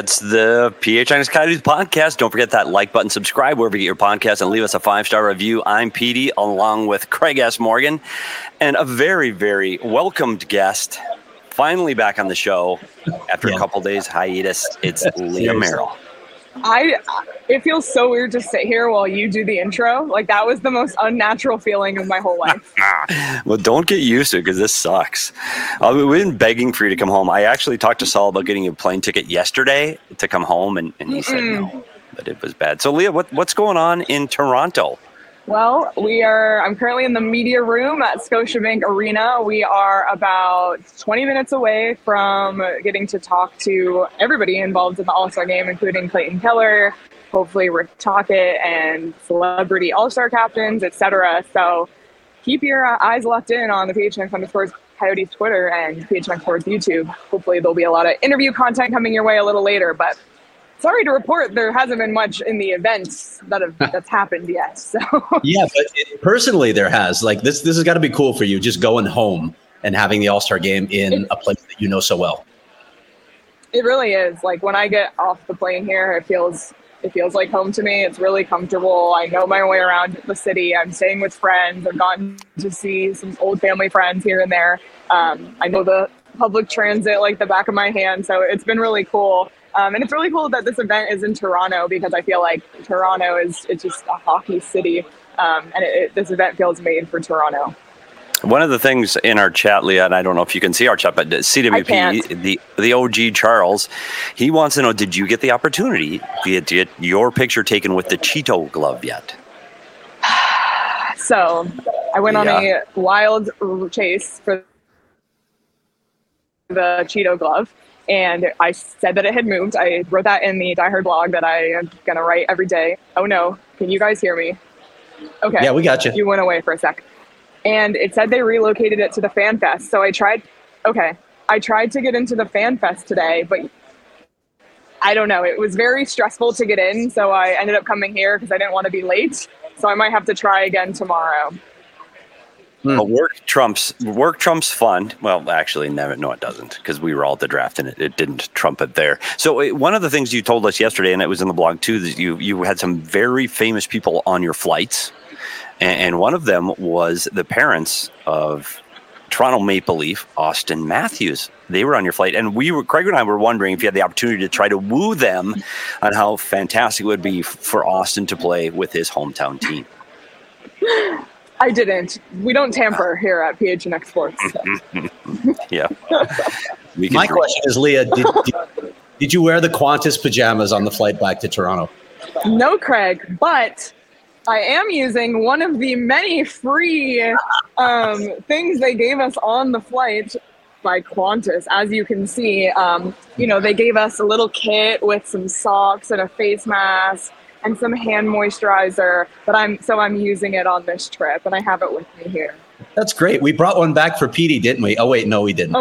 It's the PHNX Coyotes podcast. Don't forget that like button, subscribe wherever you get your podcast, and leave us a 5-star review. I'm Petey, along with Craig S. Morgan, and a very, very welcomed guest. Finally back on the show after a couple days hiatus. It's Leah Merrill. It feels so weird to sit here while you do the intro. Like, that was the most unnatural feeling of my whole life. Well, don't get used to it because this sucks. We've been begging for you to come home. I actually talked to Saul about getting a plane ticket yesterday to come home, and he said no, but it was bad. So, Leah, what's going on in Toronto? Well, I'm currently in the media room at Scotiabank Arena. We are about 20 minutes away from getting to talk to everybody involved in the All-Star game, including Clayton Keller, hopefully Rick Tocchet, and celebrity All-Star captains, etc. So keep your eyes locked in on the PHNX_ Coyotes Twitter and PHNX Sports YouTube. Hopefully there'll be a lot of interview content coming your way a little later, but sorry to report there hasn't been much in the events that's happened yet. So yeah, but personally there has. Like this has got to be cool for you, just going home and having the All-Star game in a place that you know so well. It really is. Like, when I get off the plane here, it feels like home to me. It's really comfortable. I know my way around the city. I'm staying with friends. I've gotten to see some old family friends here and there. I know the public transit like the back of my hand, so it's been really cool. And it's really cool that this event is in Toronto, because I feel like Toronto it's just a hockey city, and this event feels made for Toronto. One of the things in our chat, Leah, and I don't know if you can see our chat, but CWP, the OG Charles, he wants to know, did you get the opportunity to get your picture taken with the Cheeto glove yet? So I went on a wild chase for the Cheeto glove, and I said that it had moved. I wrote that in the Die Hard blog that I am going to write every day. Oh, no. Can you guys hear me? Okay. Yeah, we got you. You went away for a sec. And it said they relocated it to the Fan Fest. So I tried to get into the Fan Fest today, but I don't know. It was very stressful to get in. So I ended up coming here because I didn't want to be late. So I might have to try again tomorrow. Well, work trumps fun. Well, actually, no, it doesn't, because we were all at the draft and it didn't trump it there. So one of the things you told us yesterday, and it was in the blog too, that you had some very famous people on your flights, and one of them was the parents of Toronto Maple Leaf, Auston Matthews. They were on your flight, and Craig and I were wondering if you had the opportunity to try to woo them on how fantastic it would be for Auston to play with his hometown team. I didn't. We don't tamper here at PHNX Sports. So. Yeah. My question is, Leah, did you wear the Qantas pajamas on the flight back to Toronto? No, Craig, but I am using one of the many free things they gave us on the flight by Qantas. As you can see, they gave us a little kit with some socks and a face mask and some hand moisturizer, but I'm using it on this trip, and I have it with me here. That's great. We brought one back for Petey, didn't we? Oh wait, no, we didn't.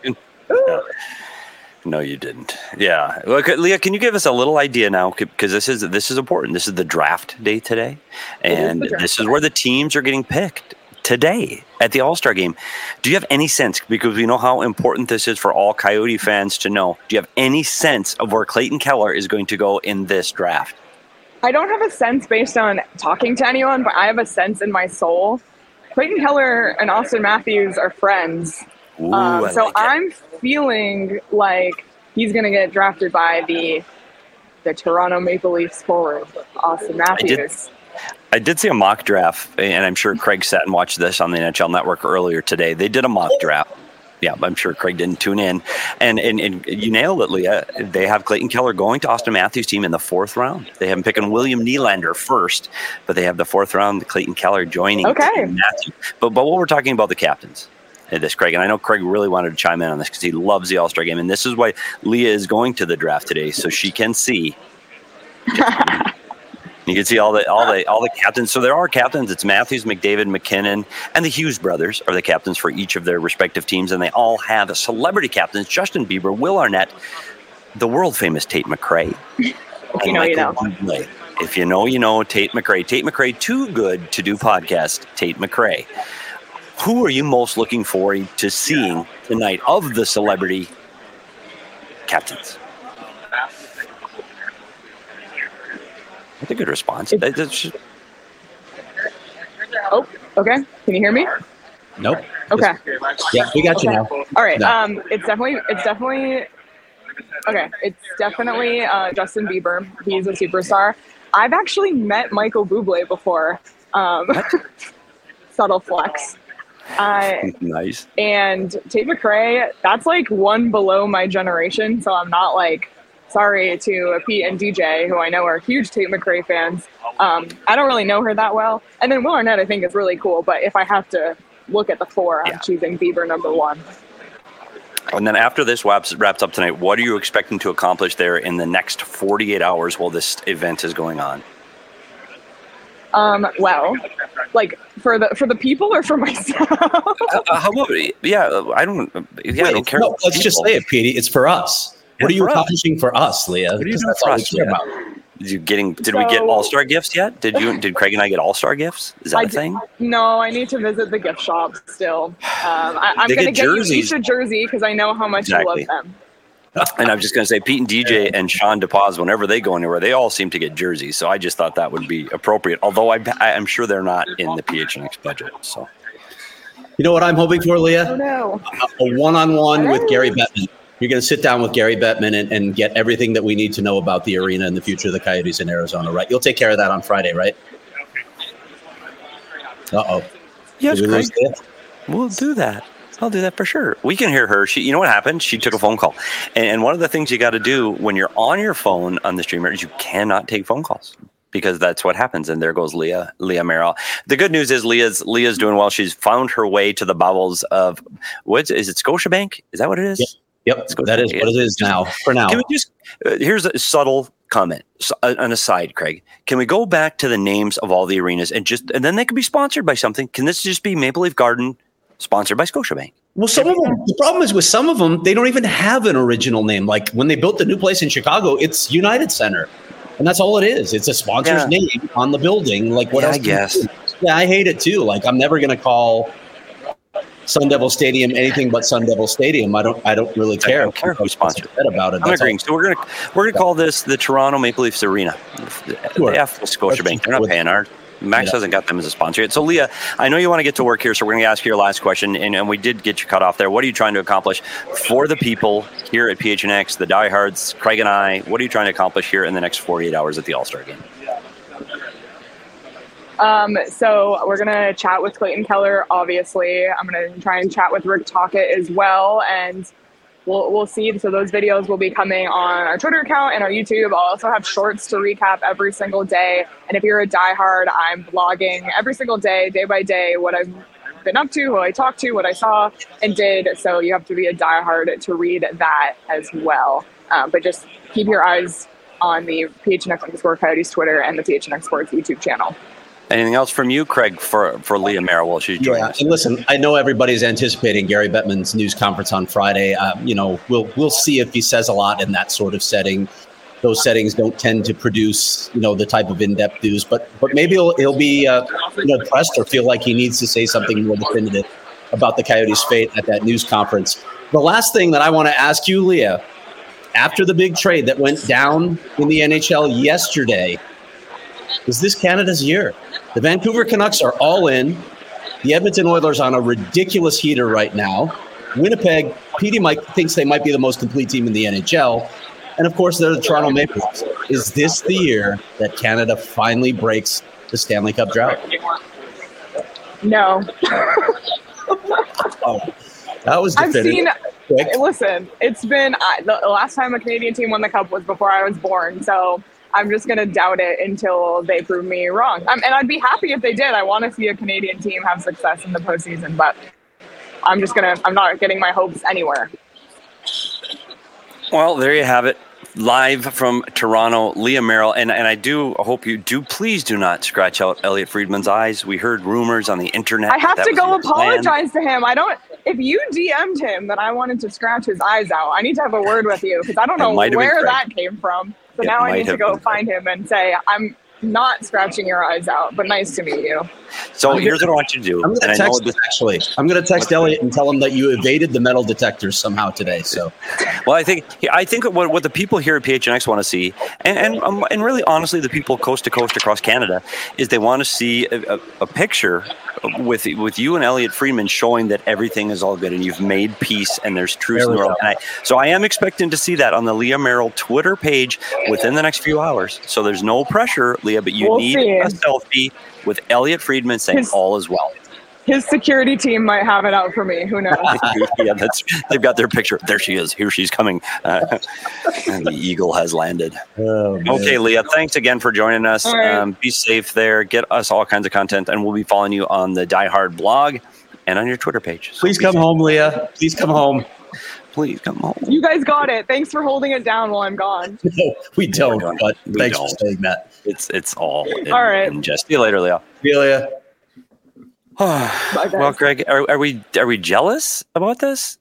No, you didn't. Yeah. Look, Leah, can you give us a little idea now? Because this is important. This is the draft day today, and this is where the teams are getting picked today at the All-Star game. Do you have any sense, because we know how important this is for all Coyote fans to know, do you have any sense of where Clayton Keller is going to go in this draft? I don't have a sense based on talking to anyone, but I have a sense in my soul. Clayton Keller and Auston Matthews are friends. I'm feeling like he's going to get drafted by the Toronto Maple Leafs forward, Auston Matthews. I did see a mock draft, and I'm sure Craig sat and watched this on the NHL Network earlier today. They did a mock draft. Yeah, I'm sure Craig didn't tune in. And you nailed it, Leah. They have Clayton Keller going to Auston Matthews' team in the 4th round. They have him picking William Nylander first, but they have the 4th round, Clayton Keller joining Matthews. But what we're talking about the captains in this, Craig, and I know Craig really wanted to chime in on this because he loves the All-Star game, and this is why Leah is going to the draft today, so she can see. You can see all the captains. So there are captains. It's Matthews, McDavid, McKinnon, and the Hughes brothers are the captains for each of their respective teams, and they all have celebrity captains: Justin Bieber, Will Arnett, the world famous Tate McRae. If you know, you know. If you know, you know. Tate McRae. Tate McRae, too good to do podcast. Tate McRae. Who are you most looking forward to seeing tonight of the celebrity captains? That's a good response. Oh, okay. Can you hear me? Nope. Okay. Yeah, we got you now. All right. No. It's definitely okay. It's definitely Justin Bieber. He's a superstar. I've actually met Michael Bublé before. Subtle flex. Nice. And Tate McRae, that's like one below my generation. So I'm not like, sorry to Pete and DJ, who I know are huge Tate McRae fans. I don't really know her that well. And then Will Arnett, I think, is really cool. But if I have to look at the four, I'm choosing Bieber number one. And then after this wraps up tonight, what are you expecting to accomplish there in the next 48 hours while this event is going on? Well, like for the people or for myself? How about, I don't care. No, let's just say it, Petey. It's for us. What are you accomplishing for us, Leah? What are you doing for us, Leah? Did we get All-Star gifts yet? Did Craig and I get All-Star gifts? Is that a thing? No, I need to visit the gift shop still. I'm going to get you each a jersey because I know how much you love them. And I'm just going to say, Pete and DJ and Sean DePaz, whenever they go anywhere, they all seem to get jerseys. So I just thought that would be appropriate. Although I'm sure they're not in the PHNX budget. So, you know what I'm hoping for, Leah? Oh, no. A one-on-one with Gary Bettman. You're going to sit down with Gary Bettman and get everything that we need to know about the arena and the future of the Coyotes in Arizona, right? You'll take care of that on Friday, right? Uh-oh. Yes, Craig. We'll do that. I'll do that for sure. We can hear her. You know what happened? She took a phone call. And one of the things you got to do when you're on your phone on the streamer is you cannot take phone calls because that's what happens. And there goes Leah Merrill. The good news is Leah's doing well. She's found her way to the bowels of, is it Scotiabank? Is that what it is? Yep. That is what it is now, for now. Can we just, here's a subtle comment, an aside, Craig. Can we go back to the names of all the arenas and then they could be sponsored by something? Can this just be Maple Leaf Garden sponsored by Scotiabank? Well, some of them, the problem is with some of them, they don't even have an original name. Like when they built the new place in Chicago, it's United Center. And that's all it is. It's a sponsor's name on the building. Like what else? I guess. Yeah, I hate it too. Like I'm never going to call Sun Devil Stadium anything but Sun Devil Stadium. I don't really care. I don't care who sponsored it about it. I'm agreeing. So we're gonna call this the Toronto Maple Leafs Arena. Sure. Scotiabank. They're not paying ours. Max hasn't got them as a sponsor yet. So, Leah, I know you want to get to work here, so we're going to ask you your last question, and we did get you cut off there. What are you trying to accomplish for the people here at PHNX, the diehards, Craig and I? What are you trying to accomplish here in the next 48 hours at the All-Star Game? So we're going to chat with Clayton Keller, obviously. I'm going to try and chat with Rick Tocchet as well, and we'll see. So those videos will be coming on our Twitter account and our YouTube. I'll also have shorts to recap every single day. And if you're a diehard, I'm blogging every single day by day, what I've been up to, who I talked to, what I saw and did. So you have to be a diehard to read that as well. But just keep your eyes on the PHNX_Coyotes Twitter and the PHNX Sports YouTube channel. Anything else from you, Craig, for Leah Merrill while she's joining us? And listen, I know everybody's anticipating Gary Bettman's news conference on Friday. We'll see if he says a lot in that sort of setting. Those settings don't tend to produce, the type of in-depth news, but maybe he'll be pressed or feel like he needs to say something more definitive about the Coyotes' fate at that news conference. The last thing that I want to ask you, Leah, after the big trade that went down in the NHL yesterday, is this Canada's year? The Vancouver Canucks are all in. The Edmonton Oilers on a ridiculous heater right now. Winnipeg, Petey thinks they might be the most complete team in the NHL. And, of course, they're the Toronto Maple Leafs. Is this the year that Canada finally breaks the Stanley Cup drought? No. That was definitive. Listen, it's been the last time a Canadian team won the Cup was before I was born, so I'm just going to doubt it until they prove me wrong. And I'd be happy if they did. I want to see a Canadian team have success in the postseason, but I'm not getting my hopes anywhere. Well, there you have it. Live from Toronto, Leah Merrill. And I do hope you please do not scratch out Elliot Friedman's eyes. We heard rumors on the internet. I have to go apologize to him. If you DM'd him that I wanted to scratch his eyes out, I need to have a word with you because I don't know where that came from. So now I need to go find him and say, not scratching your eyes out, but nice to meet you. So here's what I want you to do. I'm going to text Elliot and tell him that you evaded the metal detectors somehow today. So, well, I think what the people here at PHNX want to see, and really honestly, the people coast to coast across Canada, is they want to see a picture with you and Elliot Friedman showing that everything is all good and you've made peace and there's truth in the world. So I am expecting to see that on the Leah Merrill Twitter page within the next few hours. So there's no pressure, Leah, but you need a selfie with Elliot Friedman saying all is well. His security team might have it out for me. Who knows? Yeah, they've got their picture. There she is. Here she's coming. And the eagle has landed. Oh, okay, Leah, thanks again for joining us. Right. Be safe there. Get us all kinds of content, and we'll be following you on the Die Hard blog and on your Twitter page. So please come home, Leah. Please come home. Please come home. You guys got it. Thanks for holding it down while I'm gone. No, we don't. But thanks for saying that. It's all right. Just see you later, Leah. See you, Leah. Well, Greg, are we jealous about this?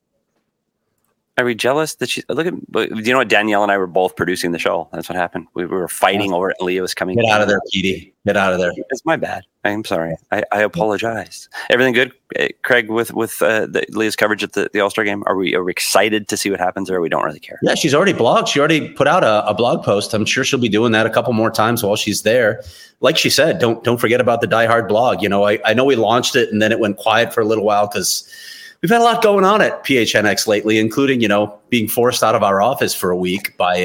Are we jealous that she look at? You know what? Danielle and I were both producing the show. That's what happened. We were fighting over it. Leah was coming. Get out of there, Petey. Get out of there. It's my bad. I'm sorry. I apologize. Everything good, Craig? With Leah's coverage at the All-Star game, are we excited to see what happens, or we don't really care? Yeah, she's already blogged. She already put out a blog post. I'm sure she'll be doing that a couple more times while she's there. Like she said, don't forget about the Die Hard blog. You know, I know we launched it and then it went quiet for a little while because we've had a lot going on at PHNX lately, including, you know, being forced out of our office for a week by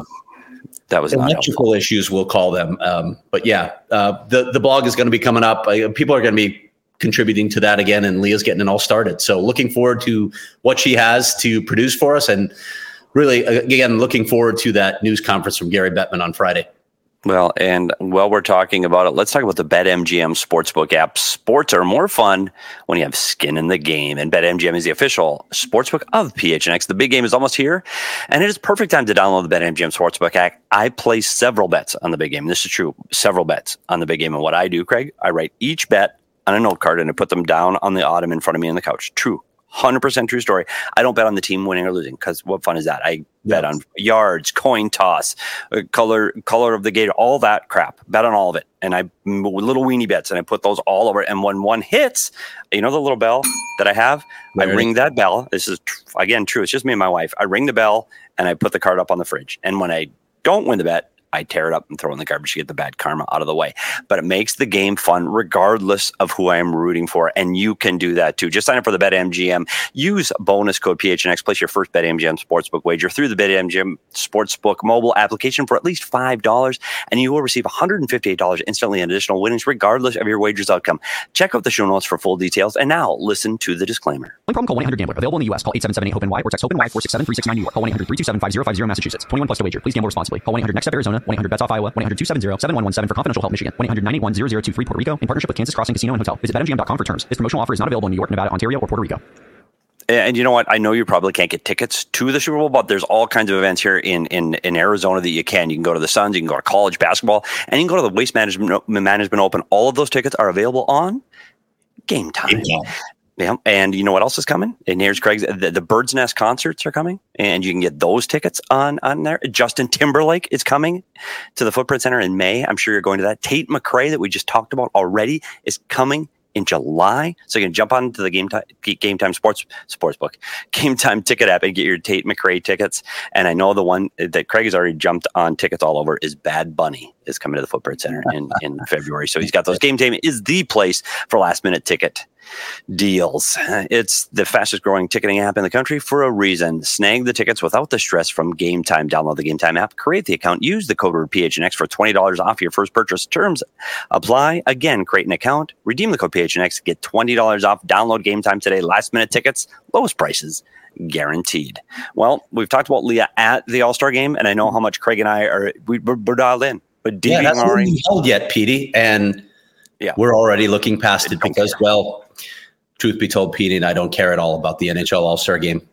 that was electrical issues, we'll call them. But yeah, the blog is going to be coming up. People are going to be contributing to that again, and Leah's getting it all started. So looking forward to what she has to produce for us, and really, again, looking forward to that news conference from Gary Bettman on Friday. Well, and while we're talking about it, let's talk about the BetMGM Sportsbook app. Sports are more fun when you have skin in the game, and BetMGM is the official sportsbook of PHNX. The big game is almost here, and it is perfect time to download the BetMGM Sportsbook app. I place several bets on the big game. This is true, several bets on the big game. And what I do, Craig, I write each bet on a note card and I put them down on the ottoman in front of me on the couch. True. 100% true story. I don't bet on the team winning or losing because what fun is that? I bet on yards, coin toss, color of the gate, all that crap. Bet on all of it. And I little weenie bets and I put those all over. And when one hits, you know the little bell that I have? I ring that bell. This is, again, true. It's just me and my wife. I ring the bell and I put the card up on the fridge. And when I don't win the bet, I tear it up and throw it in the garbage to get the bad karma out of the way. But it makes the game fun regardless of who I am rooting for. And you can do that too. Just sign up for the BetMGM. Use bonus code PHNX. Place your first BetMGM Sportsbook wager through the BetMGM Sportsbook mobile application for at least $5. And you will receive $158 instantly in additional winnings regardless of your wager's outcome. Check out the show notes for full details. And now listen to the disclaimer. Only problem, call 1-800-GAMBLER. Available in the U.S. Call 877-8-HOPE-NY or text HOPE-NY 467-369 New York. Call 1-800-327-5050 Massachusetts. 21 plus to wager. Please gamble responsibly. Call 1-800-NEXT-STEP Arizona. 1-800-BETS-OFF Iowa. 1-800-270-7117 for confidential help Michigan. 1-800-981-0023 Puerto Rico in partnership with Kansas Crossing Casino and Hotel. Visit BetMGM.com for terms. This promotional offer is not available in New York, Nevada, Ontario, or Puerto Rico. And you know what? I know you probably can't get tickets to the Super Bowl, but there's all kinds of events here in Arizona that you can. You can go to the Suns, you can go to college basketball, and you can go to the Waste Management Open. All of those tickets are available on Game Time. Yeah, and you know what else is coming? And here's Craig's. The Bird's Nest concerts are coming, and you can get those tickets on there. Justin Timberlake is coming to the Footprint Center in May. I'm sure you're going to that. Tate McRae, that we just talked about already, is coming in July. So you can jump onto the Game Time Sportsbook, Game Time ticket app and get your Tate McRae tickets. And I know the one that Craig has already jumped on tickets all over is Bad Bunny is coming to the Footprint Center in February. So he's got those. Game Time is the place for last minute ticket deals. It's the fastest growing ticketing app in the country for a reason. Snag the tickets without the stress from Game Time. Download the Game Time app, create the account, use the code word PHNX for $20 off your first purchase. Terms apply. Again, create an account, redeem the code PHNX, get $20 off. Download Game Time today. Last minute tickets, lowest prices guaranteed. Well, we've talked about Leah at the All-Star game, and I know how much Craig and I we're dialed in. But that's not held yet, Petey, and we're already looking past it because, well, truth be told, Petey and I don't care at all about the NHL All-Star game.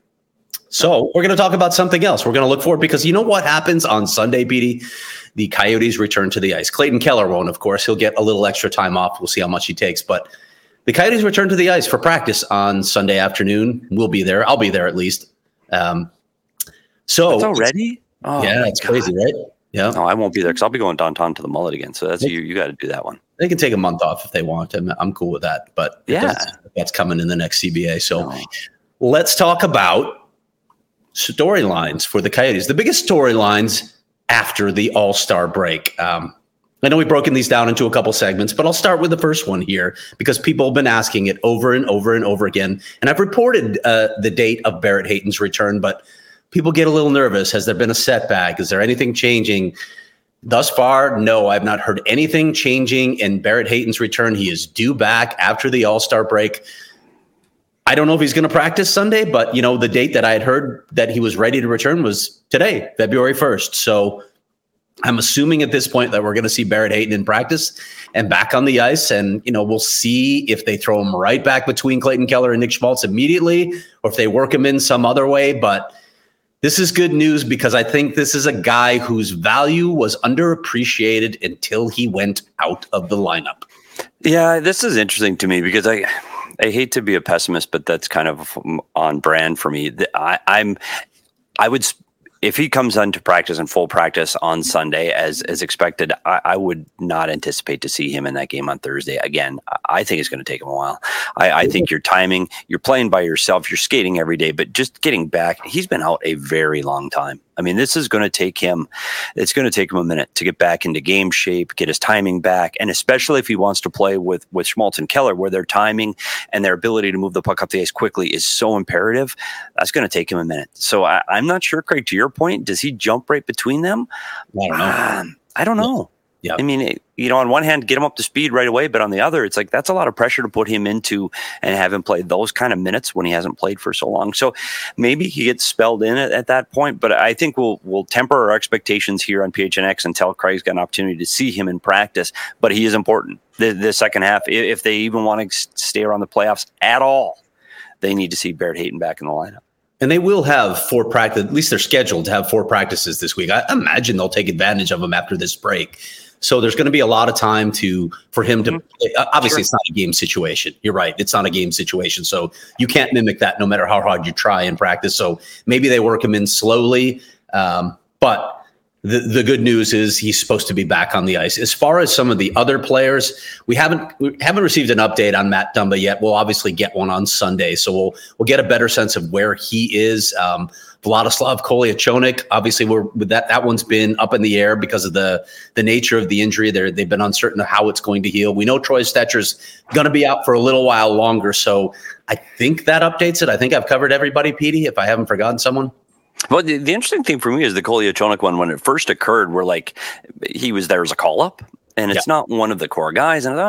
So we're going to talk about something else. We're going to look forward because you know what happens on Sunday, Petey? The Coyotes return to the ice. Clayton Keller won't, of course. He'll get a little extra time off. We'll see how much he takes. But the Coyotes return to the ice for practice on Sunday afternoon. We'll be there. I'll be there at least. So it's already? Oh, yeah, it's crazy, right? Yeah. No, I won't be there because I'll be going downtown to the Mullet again. So that's you got to do that one. They can take a month off if they want. I'm cool with that. But that's coming in the next CBA. So let's talk about storylines for the Coyotes. The biggest storylines after the All-Star break. I know we've broken these down into a couple segments, but I'll start with the first one here because people have been asking it over and over and over again. And I've reported the date of Barrett Hayton's return, but people get a little nervous. Has there been a setback? Is there anything changing? Thus far, no, I've not heard anything changing in Barrett Hayton's return. He is due back after the All-Star break. I don't know if he's going to practice Sunday, but the date that I had heard that he was ready to return was today, February 1st. So I'm assuming at this point that we're going to see Barrett Hayton in practice and back on the ice. And, we'll see if they throw him right back between Clayton Keller and Nick Schmaltz immediately, or if they work him in some other way. But this is good news because I think this is a guy whose value was underappreciated until he went out of the lineup. Yeah, this is interesting to me because I hate to be a pessimist, but that's kind of on brand for me. I would, if he comes into practice and full practice on Sunday as expected, I would not anticipate to see him in that game on Thursday. Again, I think it's going to take him a while. I think your timing, you're playing by yourself, you're skating every day, but just getting back, he's been out a very long time. I mean, this is going to take him, it's going to take him a minute to get back into game shape, get his timing back. And especially if he wants to play with Schmaltz and Keller, where their timing and their ability to move the puck up the ice quickly is so imperative, that's going to take him a minute. So I'm not sure, Craig, to your point, does he jump right between them? I don't know. Yeah. I mean, on one hand, get him up to speed right away, but on the other, it's like that's a lot of pressure to put him into and have him play those kind of minutes when he hasn't played for so long. So maybe he gets spelled in at that point, but I think we'll temper our expectations here on PHNX until Craig's got an opportunity to see him in practice. But he is important. The second half, if they even want to stay around the playoffs at all, they need to see Barrett Hayton back in the lineup. And they will have 4 practices, at least they're scheduled to have 4 practices this week. I imagine they'll take advantage of them after this break. So there's going to be a lot of time for him to play. Obviously, It's not a game situation. You're right. It's not a game situation. So you can't mimic that no matter how hard you try in practice. So maybe they work him in slowly. But the good news is he's supposed to be back on the ice. As far as some of the other players, we haven't received an update on Matt Dumba yet. We'll obviously get one on Sunday. So we'll get a better sense of where he is. Vladislav Kolyachonok, obviously that one's been up in the air because of the nature of the injury. They've been uncertain of how it's going to heal. We know Troy Stetcher's going to be out for a little while longer. So I think that updates it. I think I've covered everybody, Petey, if I haven't forgotten someone. Well, the interesting thing for me is the Kolyachonok one, when it first occurred, we're like, he was there as a call-up. And it's not one of the core guys. And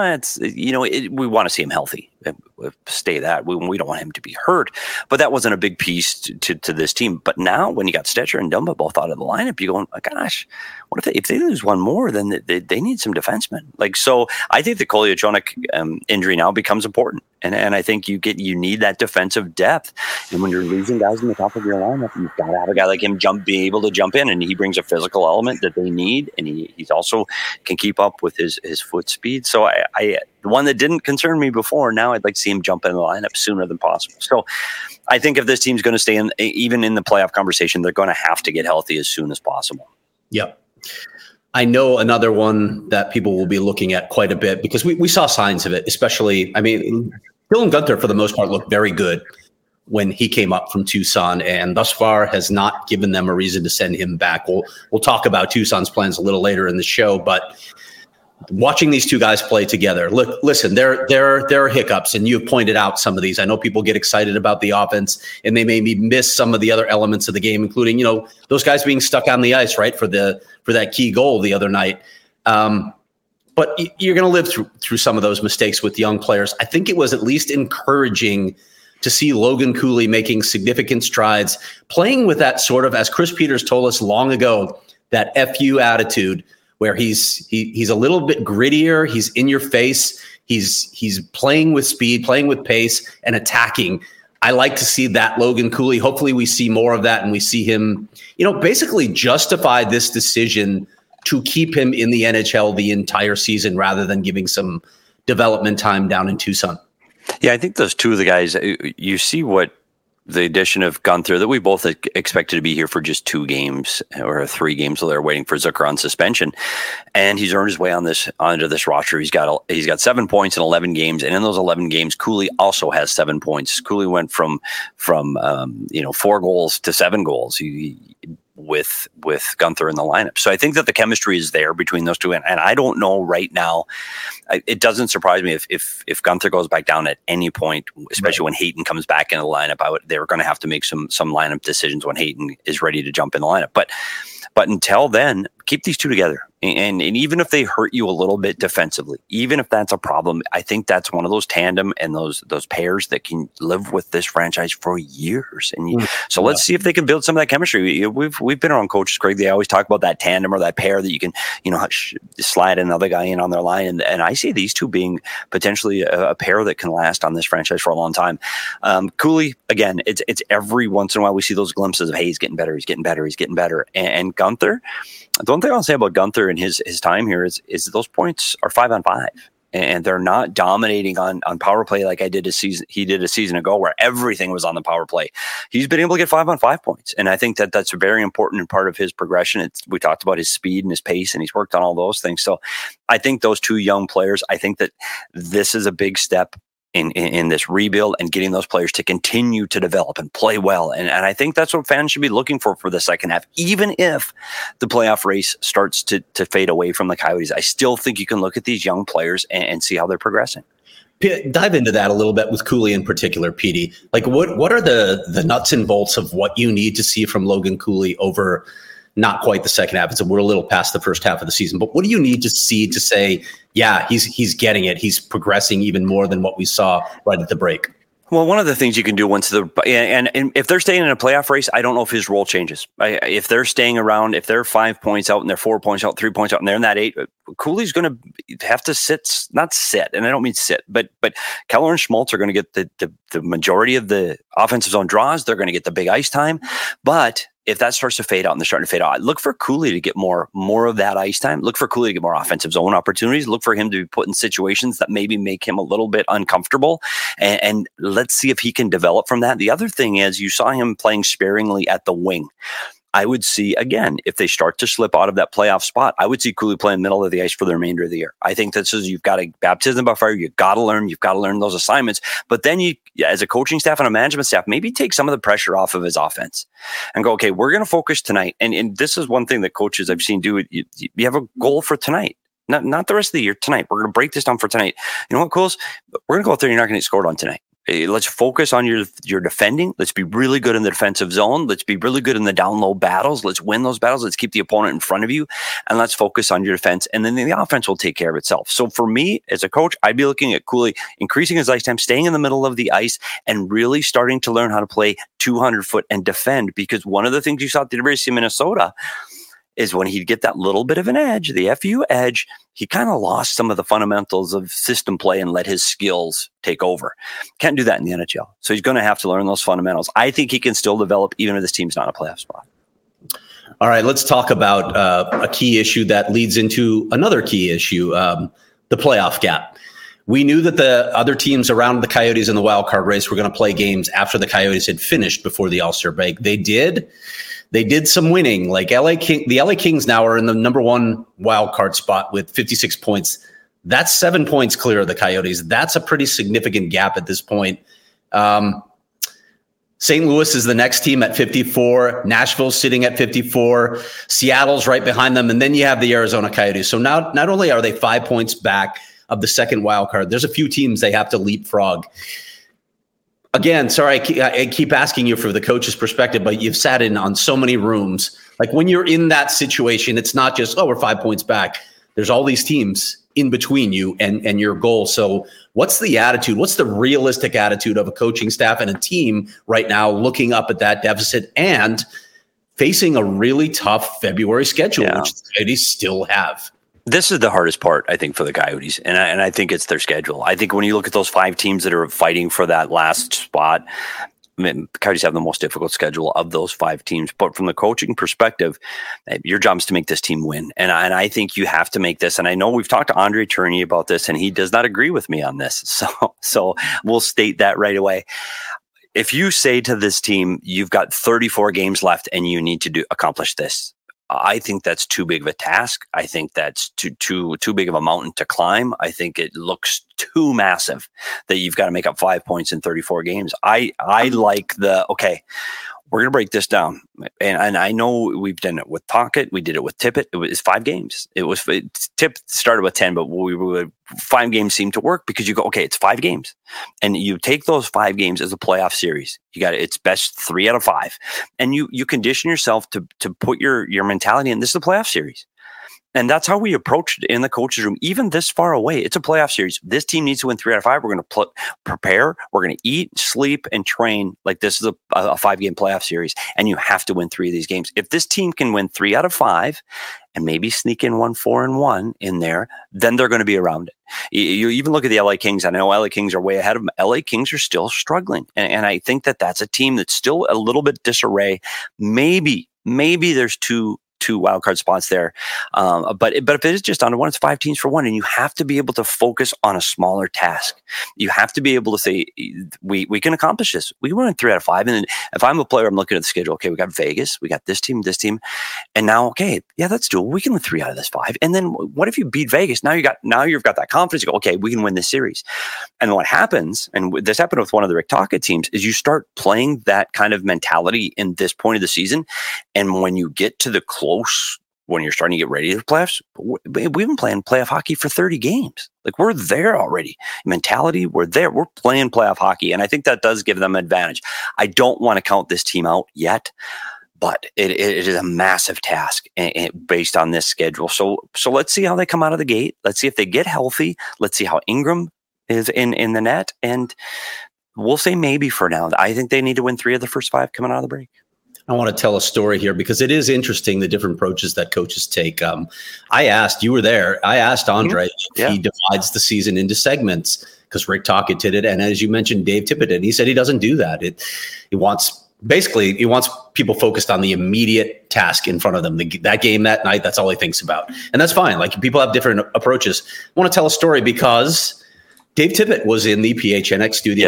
we want to see him healthy. Stay that. We don't want him to be hurt. But that wasn't a big piece to this team. But now when you got Stetcher and Dumba both out of the lineup, you're going, oh, gosh, what if they lose one more, then they need some defensemen. So I think the Kolyachonok injury now becomes important. And I think you need that defensive depth. And when you're losing guys in the top of your lineup, you've got to have a guy like him be able to jump in, and he brings a physical element that they need, and he's also can keep up with his foot speed. So I the one that didn't concern me before, now I'd like to see him jump in the lineup sooner than possible. So I think if this team's going to stay in, even in the playoff conversation, they're going to have to get healthy as soon as possible. Yep. I know another one that people will be looking at quite a bit because we saw signs of it, especially, Dylan Guenther, for the most part, looked very good when he came up from Tucson, and thus far has not given them a reason to send him back. We'll talk about Tucson's plans a little later in the show, but watching these two guys play together, listen, there are hiccups, and you've pointed out some of these. I know people get excited about the offense, and they maybe miss some of the other elements of the game, including, those guys being stuck on the ice, right, for that key goal the other night. But you're going to live through some of those mistakes with young players. I think it was at least encouraging to see Logan Cooley making significant strides, playing with that sort of, as Chris Peters told us long ago, that FU attitude where he's a little bit grittier. He's in your face. He's playing with speed, playing with pace, and attacking. I like to see that Logan Cooley. Hopefully we see more of that, and we see him, basically justify this decision to keep him in the NHL the entire season rather than giving some development time down in Tucson. Yeah, I think those two of the guys, you see what the addition of Gunther, that we both expected to be here for just 2 games or 3 games, so they're waiting for Zucker on suspension, and he's earned his way onto this roster. He's got 7 points in 11 games, and in those 11 games, Cooley also has 7 points. Cooley went from 4 goals to 7 goals. With Gunther in the lineup. So I think that the chemistry is there between those two. And I don't know right now, it doesn't surprise me if Gunther goes back down at any point, especially when Hayton comes back in the lineup. They're going to have to make some lineup decisions when Hayton is ready to jump in the lineup. But until then, keep these two together. And even if they hurt you a little bit defensively, even if that's a problem, I think that's one of those tandem and those pairs that can live with this franchise for years. And so let's see if they can build some of that chemistry. We've been around coaches, Craig. They always talk about that tandem or that pair that you can, slide another guy in on their line. And I see these two being potentially a pair that can last on this franchise for a long time. Cooley, again, it's every once in a while we see those glimpses of, hey, he's getting better, he's getting better, he's getting better. And Gunther, the one thing I'll say about Gunther and his time here is those points are 5-on-5, and they're not dominating on power play like he did a season ago where everything was on the power play. He's been able to get 5-on-5 points, and I think that that's a very important part of his progression. We talked about his speed and his pace, and he's worked on all those things. So I think those two young players, I think that this is a big step in this rebuild and getting those players to continue to develop and play well. And I think that's what fans should be looking for the second half. Even if the playoff race starts to fade away from the Coyotes, I still think you can look at these young players and see how they're progressing. Dive into that a little bit with Cooley in particular, Petey. Like what are the nuts and bolts of what you need to see from Logan Cooley over not quite the second half? We're a little past the first half of the season, but what do you need to see to say, yeah, he's getting it. He's progressing even more than what we saw right at the break. Well, one of the things you can do once and if they're staying in a playoff race, I don't know if his role changes. If they're staying around, if they're 5 points out and they're 4 points out, 3 points out, and they're in that 8, Cooley's going to have to not sit, and I don't mean sit, but Keller and Schmaltz are going to get the majority of the offensive zone draws. They're going to get the big ice time, but if that starts to fade out and they're starting to fade out, look for Cooley to get more of that ice time. Look for Cooley to get more offensive zone opportunities. Look for him to be put in situations that maybe make him a little bit uncomfortable. And let's see if he can develop from that. The other thing is you saw him playing sparingly at the wing. I would see, again, if they start to slip out of that playoff spot, I would see Cooley playing middle of the ice for the remainder of the year. I think that says you've got a baptism by fire. You've got to learn those assignments. But then you, as a coaching staff and a management staff, maybe take some of the pressure off of his offense and go, okay, we're going to focus tonight. And this is one thing that coaches I've seen do. You have a goal for tonight. Not the rest of the year, tonight. We're going to break this down for tonight. You know what, Coles? We're going to go out there. You're not going to get scored on tonight. Let's focus on your defending. Let's be really good in the defensive zone. Let's be really good in the down low battles. Let's win those battles. Let's keep the opponent in front of you, and let's focus on your defense. And then the offense will take care of itself. So for me, as a coach, I'd be looking at Cooley increasing his ice time, staying in the middle of the ice, and really starting to learn how to play 200-foot and defend. Because one of the things you saw at the University of Minnesota is when he'd get that little bit of an edge, the FU edge, he kind of lost some of the fundamentals of system play and let his skills take over. Can't do that in the NHL. So he's going to have to learn those fundamentals. I think he can still develop even if this team's not a playoff spot. All right, let's talk about a key issue that leads into another key issue, the playoff gap. We knew that the other teams around the Coyotes in the wild card race were going to play games after the Coyotes had finished before the All-Star break. They did some winning. Like the LA Kings now are in the number 1 wild card spot with 56 points. That's 7 points clear of the Coyotes. That's a pretty significant gap at this point. St. Louis is the next team at 54. Nashville's sitting at 54. Seattle's right behind them. And then you have the Arizona Coyotes. So now not only are they 5 points back of the second wild card, there's a few teams they have to leapfrog. Again, sorry, I keep asking you for the coach's perspective, but you've sat in on so many rooms. Like when you're in that situation, it's not just, we're 5 points back. There's all these teams in between you and your goal. So what's the attitude? What's the realistic attitude of a coaching staff and a team right now looking up at that deficit and facing a really tough February schedule, which the Coyotes still have? This is the hardest part, I think, for the Coyotes, and I think it's their schedule. I think when you look at those 5 teams that are fighting for that last spot, the Coyotes have the most difficult schedule of those 5 teams. But from the coaching perspective, your job is to make this team win, and I think you have to make this. And I know we've talked to Andre Tourigny about this, and he does not agree with me on this. So we'll state that right away. if you say to this team, you've got 34 games left and you need to accomplish this, I think that's too big of a task. I think that's too big of a mountain to climb. I think it looks too massive that you've got to make up 5 points in 34 games. I like okay, we're going to break this down. And I know we've done it with Tocchet. We did it with Tippett. It was 5 games. Tippett started with 10, but 5 games seemed to work because you go, okay, it's 5 games. And you take those 5 games as a playoff series. You got it's best 3 out of 5. And you condition yourself to put your mentality in. This is a playoff series. And that's how we approached it in the coach's room, even this far away. It's a playoff series. This team needs to win 3 out of 5. We're going to prepare. We're going to eat, sleep, and train like this is a 5-game playoff series. And you have to win 3 of these games. If this team can win 3 out of 5 and maybe sneak in 4-1 in there, then they're going to be around it. You even look at the LA Kings. I know LA Kings are way ahead of them. LA Kings are still struggling. And I think that's a team that's still a little bit disarray. Maybe there's two wildcard spots there. But if it is just down to 1, it's 5 teams for 1. And you have to be able to focus on a smaller task. You have to be able to say, we can accomplish this. We win 3 out of 5. And then if I'm a player, I'm looking at the schedule. Okay, we got Vegas. We got this team. And now, okay, yeah, that's doable. We can win 3 out of this 5. And then what if you beat Vegas? Now you've got that confidence. You go, okay, we can win this series. And what happens, and this happened with one of the Rick Tocchet teams, is you start playing that kind of mentality in this point of the season. And when you get to the when you're starting to get ready to the playoffs, we've been playing playoff hockey for 30 games. Like, we're there already. Mentality, we're there. We're playing playoff hockey. And I think that does give them advantage. I don't want to count this team out yet, but it is a massive task based on this schedule. So let's see how they come out of the gate. Let's see if they get healthy. Let's see how Ingram is in the net. And we'll say maybe for now. I think they need to win 3 of the first 5 coming out of the break. I want to tell a story here because it is interesting, the different approaches that coaches take. You were there. I asked Andre if he divides the season into segments because Rick Tocchet did it. And as you mentioned, Dave Tippett did. He said he doesn't do that. He wants people focused on the immediate task in front of them. That game that night, that's all he thinks about. And that's fine. Like, people have different approaches. I want to tell a story because Dave Tippett was in the PHNX studios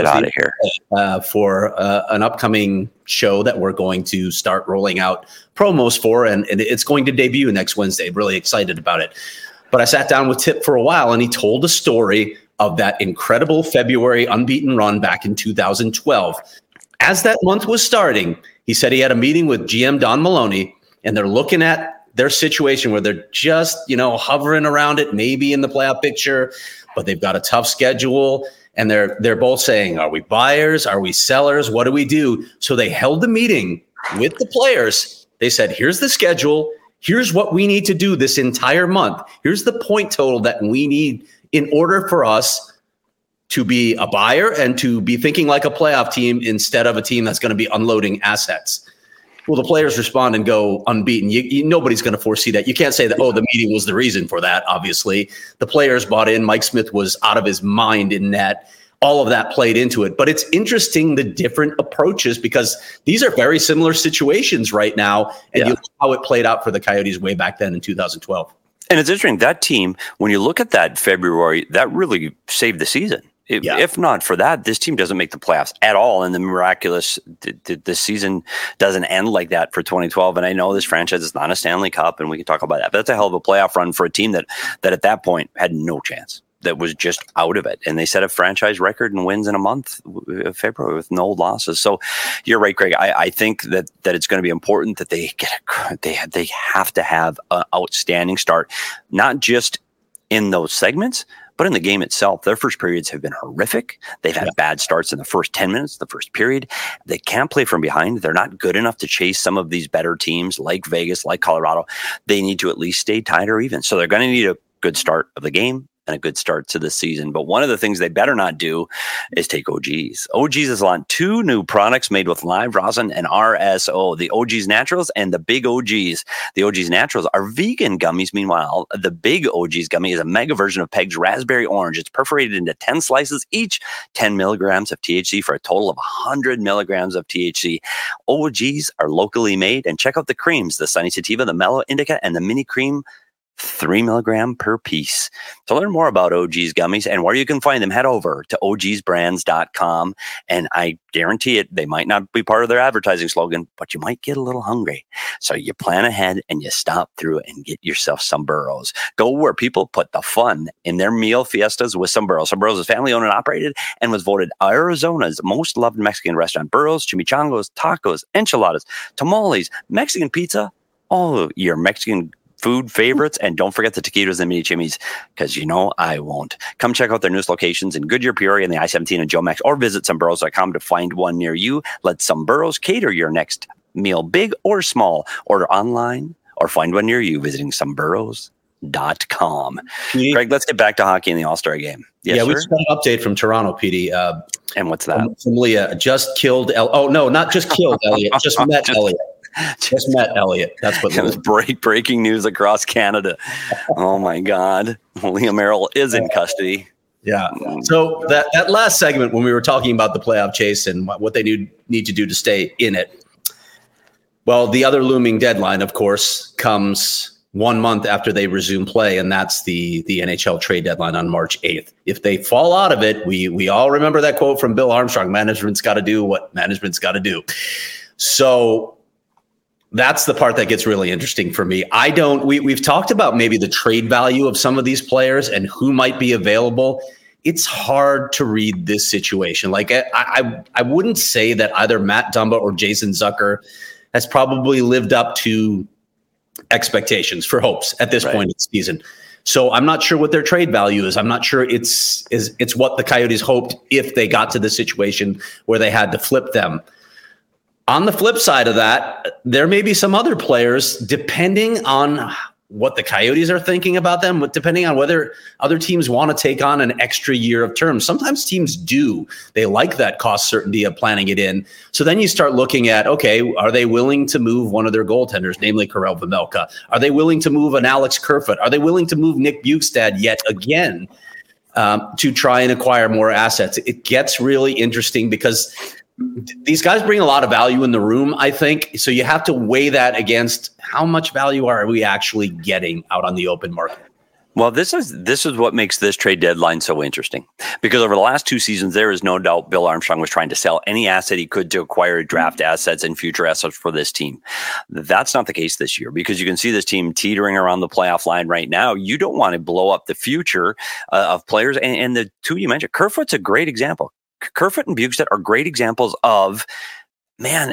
for an upcoming show that we're going to start rolling out promos for, and it's going to debut next Wednesday. Really excited about it. But I sat down with Tip for a while, and he told a story of that incredible February unbeaten run back in 2012. As that month was starting, he said he had a meeting with GM Don Maloney, and they're looking at their situation where they're just, hovering around it, maybe in the playoff picture, but they've got a tough schedule. And they're both saying, are we buyers? Are we sellers? What do we do? So they held the meeting with the players. They said, here's the schedule. Here's what we need to do this entire month. Here's the point total that we need in order for us to be a buyer and to be thinking like a playoff team instead of a team that's going to be unloading assets. Well, the players respond and go unbeaten. Nobody's going to foresee that. You can't say that, the meeting was the reason for that, obviously. The players bought in. Mike Smith was out of his mind in net. All of that played into it. But it's interesting, the different approaches, because these are very similar situations right now. And you look how it played out for the Coyotes way back then in 2012. And it's interesting, that team, when you look at that February, that really saved the season. If not for that, this team doesn't make the playoffs at all. And the miraculous, the season doesn't end like that for 2012. And I know this franchise is not a Stanley Cup, and we can talk about that. But that's a hell of a playoff run for a team that at that point had no chance, that was just out of it. And they set a franchise record and wins in a month of February with no losses. So you're right, Greg. I think that it's going to be important that they have to have an outstanding start, not just in those segments, but in the game itself. Their first periods have been horrific. They've had bad starts in the first 10 minutes, the first period. They can't play from behind. They're not good enough to chase some of these better teams like Vegas, like Colorado. They need to at least stay tied or even. So they're going to need a good start of the game and a good start to the season. But one of the things they better not do is take OGs. OGs is on 2 new products made with live rosin and RSO, the OGs Naturals and the Big OGs. The OGs Naturals are vegan gummies. Meanwhile, the Big OGs gummy is a mega version of Peg's Raspberry Orange. It's perforated into 10 slices, each 10 milligrams of THC for a total of 100 milligrams of THC. OGs are locally made. And check out the creams, the Sunny Sativa, the Mellow Indica, and the Mini Cream 3 milligram per piece. To learn more about OG's gummies and where you can find them, head over to ogsbrands.com. And I guarantee it, they might not be part of their advertising slogan, but you might get a little hungry. So you plan ahead and you stop through and get yourself some burros. Go where people put the fun in their meal fiestas with some burros. Some burros is family owned and operated and was voted Arizona's most loved Mexican restaurant. Burros, chimichangos, tacos, enchiladas, tamales, Mexican pizza, all your Mexican food favorites. And don't forget the taquitos and mini chimneys, because I won't. Come check out their newest locations in Goodyear, Peoria, and the I-17 and Joe Max, or visit someburros.com to find one near you. Let Some Burros cater your next meal, big or small. Order online or find one near you visiting someburros.com. Greg, let's get back to hockey in the All-Star game. Yes, we just got an update from Toronto, PD. And what's that? From Leah. Just killed. Not just killed Elliot. Just met Elliot. Just met Elliot. That's what it was. Breaking news across Canada. Oh my God. Leah Merrill is in custody. Yeah. So that last segment, when we were talking about the playoff chase and what they need to do to stay in it. Well, the other looming deadline, of course, comes 1 month after they resume play, and that's the NHL trade deadline on March 8th. If they fall out of it, we all remember that quote from Bill Armstrong: management's got to do what management's got to do. So that's the part that gets really interesting for me. We've talked about maybe the trade value of some of these players and who might be available. It's hard to read this situation. Like I wouldn't say that either Matt Dumba or Jason Zucker has probably lived up to expectations for hopes at this point in the season. So I'm not sure what their trade value is. I'm not sure it's what the Coyotes hoped if they got to the situation where they had to flip them. On the flip side of that, there may be some other players, depending on what the Coyotes are thinking about them, depending on whether other teams want to take on an extra year of terms. Sometimes teams do. They like that cost certainty of planning it in. So then you start looking at, okay, are they willing to move one of their goaltenders, namely Karel Vejmelka? Are they willing to move an Alex Kerfoot? Are they willing to move Nick Bjugstad yet again to try and acquire more assets? It gets really interesting because these guys bring a lot of value in the room, I think. So you have to weigh that against how much value are we actually getting out on the open market. Well, this is what makes this trade deadline so interesting, because over the last 2 seasons, there is no doubt Bill Armstrong was trying to sell any asset he could to acquire draft assets and future assets for this team. That's not the case this year, because you can see this team teetering around the playoff line right now. You don't want to blow up the future of players. And the two you mentioned, Kerfoot's a great example. Kerfoot and Bjugstad are great examples of, man,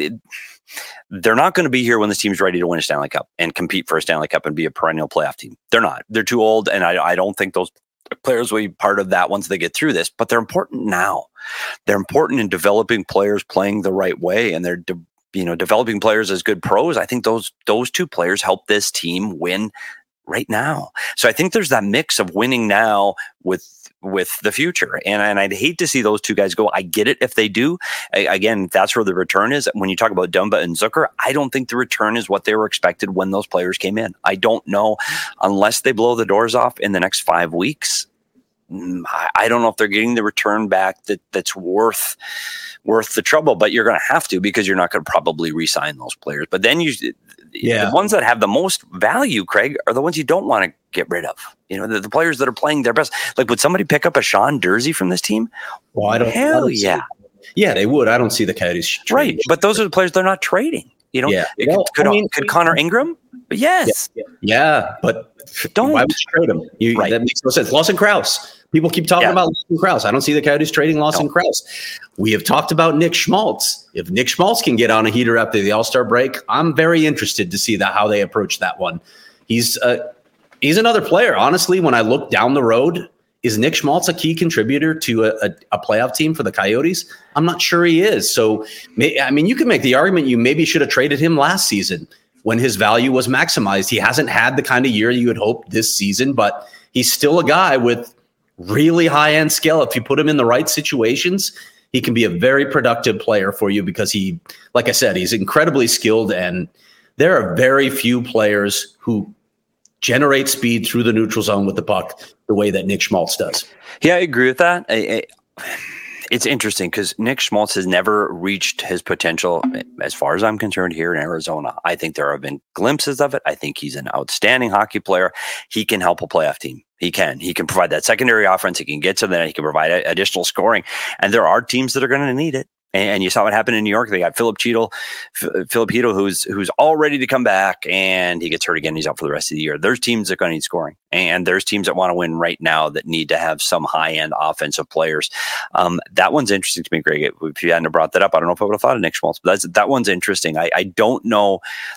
they're not going to be here when this team's ready to win a Stanley Cup and compete for a Stanley Cup and be a perennial playoff team. They're not. They're too old, and I don't think those players will be part of that once they get through this. But they're important now. They're important in developing players playing the right way, and they're developing players as good pros. I think those two players help this team win right now. So I think there's that mix of winning now with the future. And I'd hate to see those two guys go. I get it if they do. Again, that's where the return is. When you talk about Dumba and Zucker, I don't think the return is what they were expected when those players came in. I don't know, unless they blow the doors off in the next 5 weeks. I don't know if they're getting the return back that's worth the trouble, but you're going to have to, because you're not going to probably re-sign those players. But then the ones that have the most value, Craig, are the ones you don't want to get rid of. The players that are playing their best. Like, would somebody pick up a Sean Durzi from this team? Well, I don't. Yeah, they would. I don't see the Coyotes right, but those are the players they're not trading. Could Connor Ingram? Yes. Yeah, but don't. Why would you trade him? That makes no sense. Lawson Krause. People keep talking about Lawson Krause. I don't see the Coyotes trading Lawson Krause. We have talked about Nick Schmaltz. If Nick Schmaltz can get on a heater after the All-Star break, I'm very interested to see how they approach that one. He's another player. Honestly, when I look down the road, is Nick Schmaltz a key contributor to a playoff team for the Coyotes? I'm not sure he is. So, you can make the argument you maybe should have traded him last season when his value was maximized. He hasn't had the kind of year you would hope this season, but he's still a guy with really high-end skill. If you put him in the right situations, he can be a very productive player for you, because he, like I said, he's incredibly skilled, and there are very few players who generate speed through the neutral zone with the puck the way that Nick Schmaltz does. Yeah, I agree with that. it's interesting because Nick Schmaltz has never reached his potential, as far as I'm concerned, here in Arizona. I think there have been glimpses of it. I think he's an outstanding hockey player. He can help a playoff team. He can provide that secondary offense. He can get to that. He can provide additional scoring. And there are teams that are going to need it. And you saw what happened in New York. They got Philip Chytil, who's all ready to come back, and he gets hurt again. He's out for the rest of the year. There's teams that are going to need scoring, and there's teams that want to win right now that need to have some high-end offensive players. That one's interesting to me, Greg. If you hadn't brought that up, I don't know if I would have thought of Nick Schmaltz, but that one's interesting. I don't know.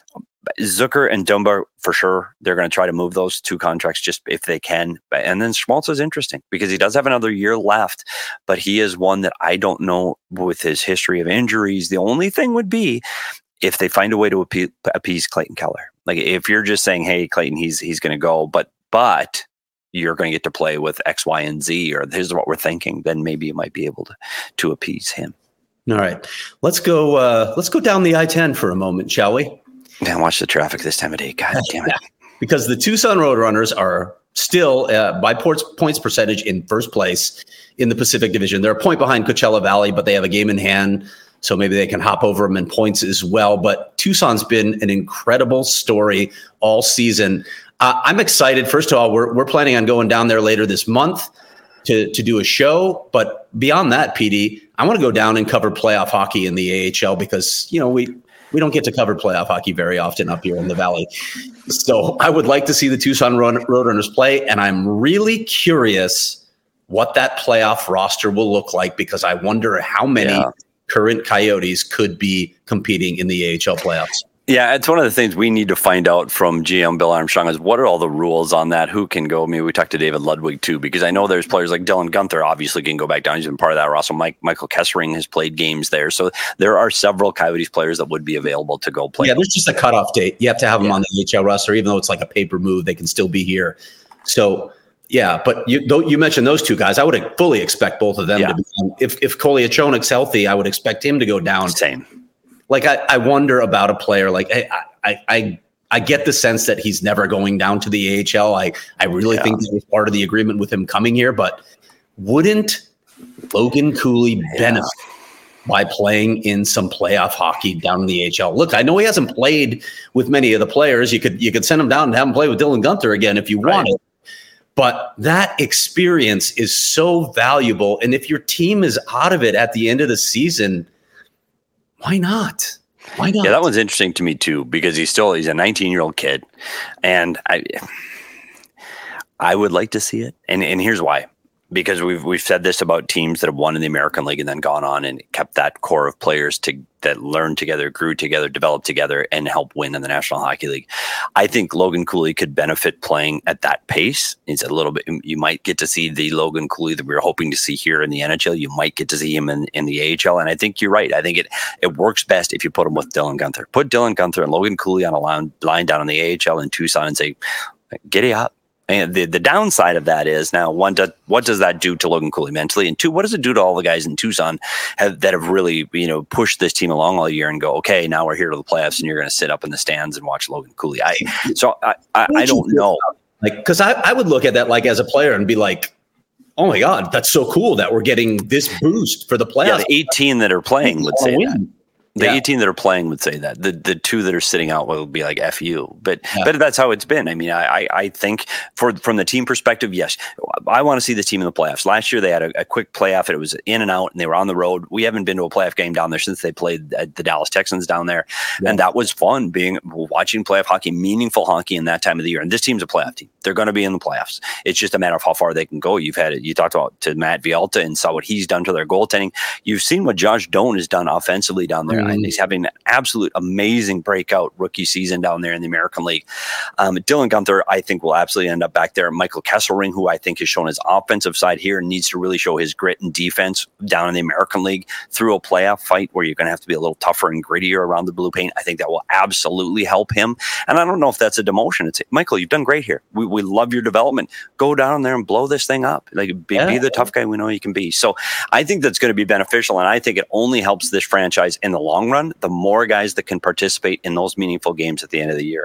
Zucker and Dumba, for sure, they're going to try to move those two contracts just if they can. And then Schmaltz is interesting because he does have another year left, but he is one that I don't know with his history of injuries. The only thing would be if they find a way to appease Clayton Keller. Like if you're just saying, hey, Clayton, he's going to go, but you're going to get to play with X, Y, and Z, or here's what we're thinking, then maybe you might be able to appease him. All right. Let's go down the I-10 for a moment, shall we? Man, watch the traffic this time of day. God damn it. Because the Tucson Roadrunners are still, by points percentage, in first place in the Pacific Division. They're a point behind Coachella Valley, but they have a game in hand, so maybe they can hop over them in points as well. But Tucson's been an incredible story all season. I'm excited. First of all, we're planning on going down there later this month to do a show. But beyond that, PD, I want to go down and cover playoff hockey in the AHL because, we don't get to cover playoff hockey very often up here in the Valley. So I would like to see the Tucson Roadrunners play, and I'm really curious what that playoff roster will look like because I wonder how many current Coyotes could be competing in the AHL playoffs. Yeah, it's one of the things we need to find out from GM Bill Armstrong is what are all the rules on that? Who can go? I mean, we talked to David Ludwig too, because I know there's players like Dylan Gunther obviously can go back down. He's been part of that roster. Michael Kessering has played games there. So there are several Coyotes players that would be available to go play. Yeah, there's just a cutoff date. You have to have them on the AHL roster, even though it's like a paper move, they can still be here. So yeah, but you mentioned those two guys. I would fully expect both of them to be. If Kolyachonok's healthy, I would expect him to go down. Same. Like I wonder about a player like I get the sense that he's never going down to the AHL. I really think that was part of the agreement with him coming here. But wouldn't Logan Cooley benefit by playing in some playoff hockey down in the AHL? Look, I know he hasn't played with many of the players. You could send him down and have him play with Dylan Gunther again if you wanted. But that experience is so valuable. And if your team is out of it at the end of the season, why not? Why not? Yeah, that one's interesting to me too, because he's a 19-year-old kid. And I would like to see it. And here's why. Because we've said this about teams that have won in the American League and then gone on and kept that core of players that learned together, grew together, developed together, and helped win in the National Hockey League. I think Logan Cooley could benefit playing at that pace. It's a little bit. You might get to see the Logan Cooley that we were hoping to see here in the NHL. You might get to see him in the AHL. And I think you're right. I think it works best if you put him with Dylan Gunther. Put Dylan Gunther and Logan Cooley on a line down in the AHL in Tucson and say, giddy up. And the downside of that is now, one, what does that do to Logan Cooley mentally? And two, what does it do to all the guys in Tucson that have really, pushed this team along all year and go, okay, now we're here to the playoffs and you're going to sit up in the stands and watch Logan Cooley. I don't know. Like, because I would look at that like as a player and be like, oh my God, that's so cool that we're getting this boost for the playoffs. Yeah, the 18 that are playing would say that. The 18 that are playing would say that. The two that are sitting out will be like F you. But that's how it's been. I mean, I think from the team perspective, yes, I want to see the team in the playoffs. Last year they had a quick playoff and it was in and out and they were on the road. We haven't been to a playoff game down there since they played the Dallas Texans down there. Yeah. And that was fun watching playoff hockey, meaningful hockey in that time of the year. And this team's a playoff team. They're going to be in the playoffs. It's just a matter of how far they can go. You talked about to Matt Vialta and saw what he's done to their goaltending. You've seen what Josh Doan has done offensively down there. And he's having an absolute amazing breakout rookie season down there in the American League. Dylan Gunther, I think, will absolutely end up back there. Michael Kesselring, who I think has shown his offensive side here, needs to really show his grit and defense down in the American League through a playoff fight where you're going to have to be a little tougher and grittier around the blue paint. I think that will absolutely help him. And I don't know if that's a demotion. It's Michael, you've done great here. We love your development. Go down there and blow this thing up. Like be the tough guy we know you can be. So I think that's going to be beneficial. And I think it only helps this franchise in the long run. The more guys that can participate in those meaningful games at the end of the year.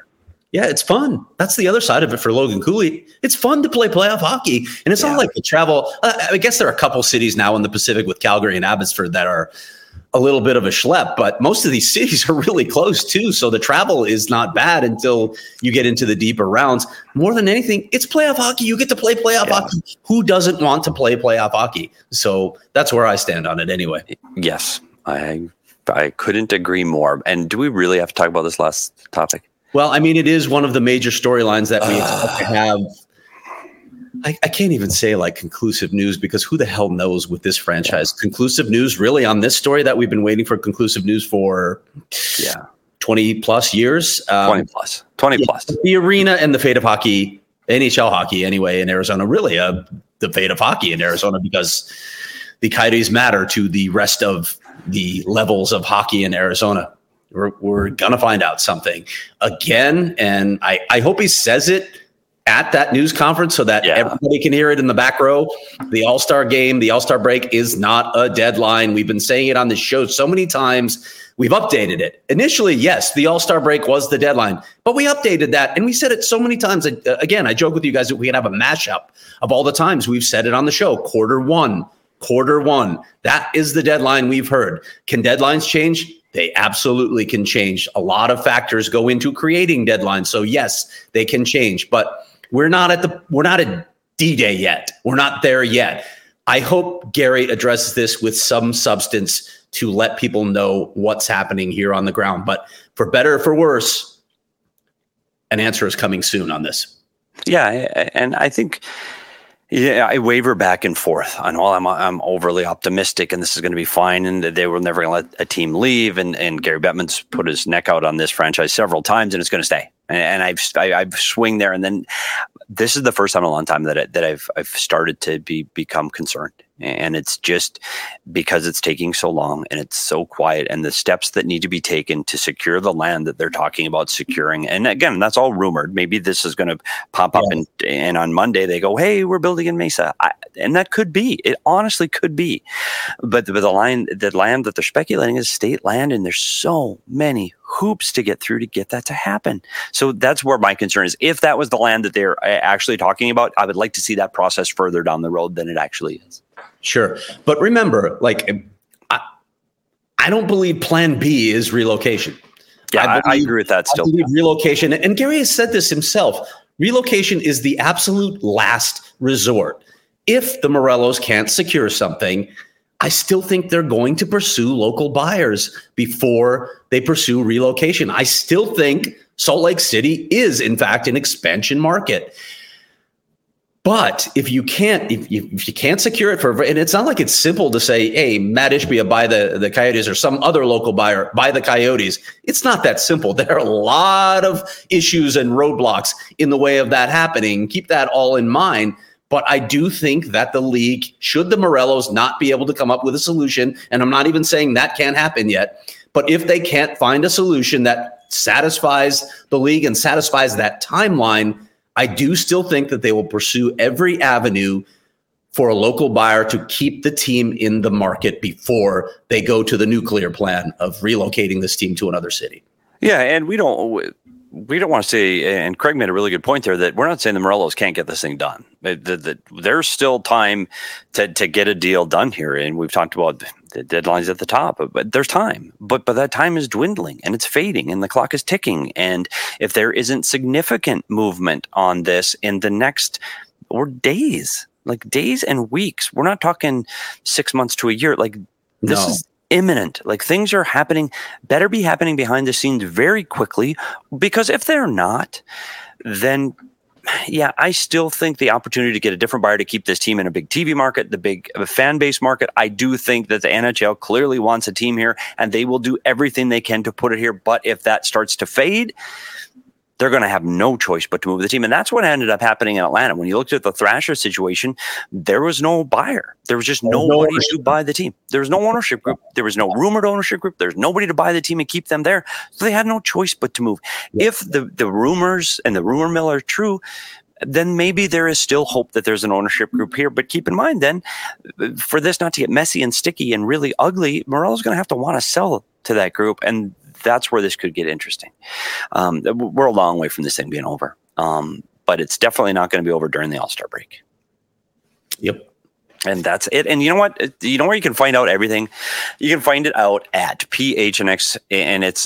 Yeah, it's fun. That's the other side of it for Logan Cooley. It's fun to play playoff hockey. And it's not like the travel. I guess there are a couple cities now in the Pacific with Calgary and Abbotsford that are a little bit of a schlep, but most of these cities are really close too. So the travel is not bad until you get into the deeper rounds. More than anything, it's playoff hockey. You get to play playoff hockey. Who doesn't want to play playoff hockey? So that's where I stand on it anyway. Yes, I couldn't agree more. And do we really have to talk about this last topic? Well, I mean, it is one of the major storylines that we expect to have. I can't even say like conclusive news because who the hell knows with this franchise? Conclusive news really on this story that we've been waiting for conclusive news for 20 plus years. 20 plus. The arena and the fate of hockey, NHL hockey anyway, in Arizona, really the fate of hockey in Arizona because the Coyotes matter to the rest of the levels of hockey in Arizona. We're going to find out something again. And I hope he says it at that news conference so that everybody can hear it in the back row. The All-Star game, the All-Star break is not a deadline. We've been saying it on the show so many times. We've updated it. Initially, yes, the All-Star break was the deadline, but we updated that. And we said it so many times. Again, I joke with you guys that we can have a mashup of all the times we've said it on the show. Quarter one. That is the deadline we've heard. Can deadlines change? They absolutely can change. A lot of factors go into creating deadlines. So yes, they can change, but we're not at D-Day yet. We're not there yet. I hope Gary addresses this with some substance to let people know what's happening here on the ground. But for better or for worse, an answer is coming soon on this. Yeah, and I think I waver back and forth on, well, I'm overly optimistic and this is going to be fine and they were never going to let a team leave. And Gary Bettman's put his neck out on this franchise several times and it's going to stay. And I've swung there. And then this is the first time in a long time that I've started to become concerned. And it's just because it's taking so long and it's so quiet and the steps that need to be taken to secure the land that they're talking about securing. And again, that's all rumored. Maybe this is going to pop up and on Monday they go, hey, we're building in Mesa. And that could be. It honestly could be. But the land that they're speculating is state land and there's so many hoops to get through to get that to happen. So that's where my concern is. If that was the land that they're actually talking about, I would like to see that process further down the road than it actually is. Sure. But remember, like, I don't believe plan B is relocation. Yeah, I agree with that still. I believe relocation, and Gary has said this himself, relocation is the absolute last resort. If the Morellos can't secure something, I still think they're going to pursue local buyers before they pursue relocation. I still think Salt Lake City is, in fact, an expansion market. But if you can't secure it and it's not like it's simple to say, hey, Matt Ishbia buy the Coyotes or some other local buyer buy the Coyotes. It's not that simple. There are a lot of issues and roadblocks in the way of that happening. Keep that all in mind. But I do think that the league, should the Morellos not be able to come up with a solution, and I'm not even saying that can't happen yet, but if they can't find a solution that satisfies the league and satisfies that timeline, I do still think that they will pursue every avenue for a local buyer to keep the team in the market before they go to the nuclear plan of relocating this team to another city. Yeah, and we don't want to say, and Craig made a really good point there, that we're not saying the Morellos can't get this thing done. There's still time to get a deal done here, and we've talked about the deadlines at the top, but there's time. But that time is dwindling, and it's fading, and the clock is ticking. And if there isn't significant movement on this in the next days and weeks, we're not talking 6 months to a year. This is imminent. Things are happening, better be happening behind the scenes very quickly, because if they're not, then I still think the opportunity to get a different buyer to keep this team in a big TV market, the big fan base market. I do think that the NHL clearly wants a team here and they will do everything they can to put it here. But if that starts to fade, they're going to have no choice but to move the team. And that's what ended up happening in Atlanta. When you looked at the Thrasher situation, there was no buyer. There was just nobody to buy the team. There was no ownership group. There was no rumored ownership group. There's nobody to buy the team and keep them there. So they had no choice but to move. Yeah. If the rumors and the rumor mill are true, then maybe there is still hope that there's an ownership group here. But keep in mind then, for this not to get messy and sticky and really ugly, Morello's going to have to want to sell to that group. And that's where this could get interesting. We're a long way from this thing being over, but it's definitely not going to be over during the All-Star break. Yep. And that's it. And you know what? You know where you can find out everything? You can find it out at PHNX, and it's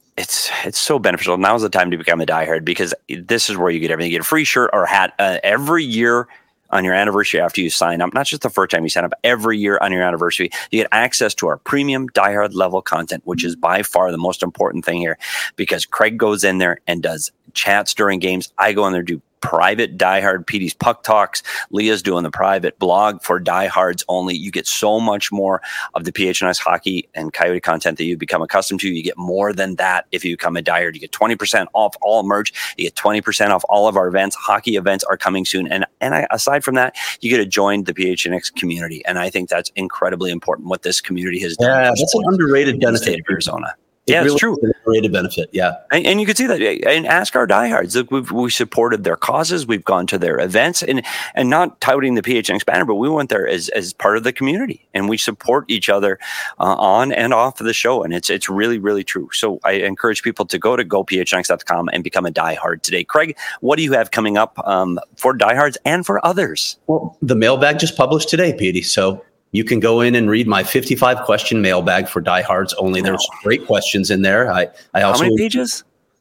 so beneficial. Now's the time to become a diehard, because this is where you get everything. You get a free shirt or hat every year on your anniversary after you sign up. Not just the first time you sign up, every year on your anniversary. You get access to our premium diehard level content, which is by far the most important thing here, because Craig goes in there and does chats during games. I go in there, do private diehard PD's Puck Talks. Leah's doing the private blog for diehards only. You get so much more of the PHNX hockey and Coyote content that you become accustomed to. You get more than that if you become a diehard. You get 20% off all merch. You get 20% off all of our events. Hockey events are coming soon. And aside from that, you get to join the PHNX community. And I think that's incredibly important, what this community has done. Yeah, that's an underrated benefit of Arizona. It really it's true. Is an underrated benefit, yeah. And you can see that. And ask our diehards. Look, we supported their causes. We've gone to their events, and not touting the PHNX banner, but we went there as part of the community, and we support each other on and off of the show. And it's really, really true. So I encourage people to go to gophnx.com and become a diehard today. Craig, what do you have coming up for diehards and for others? Well, the mailbag just published today, Petey. So you can go in and read my 55 question mailbag for diehards only. There's great questions in there. I also, how many pages?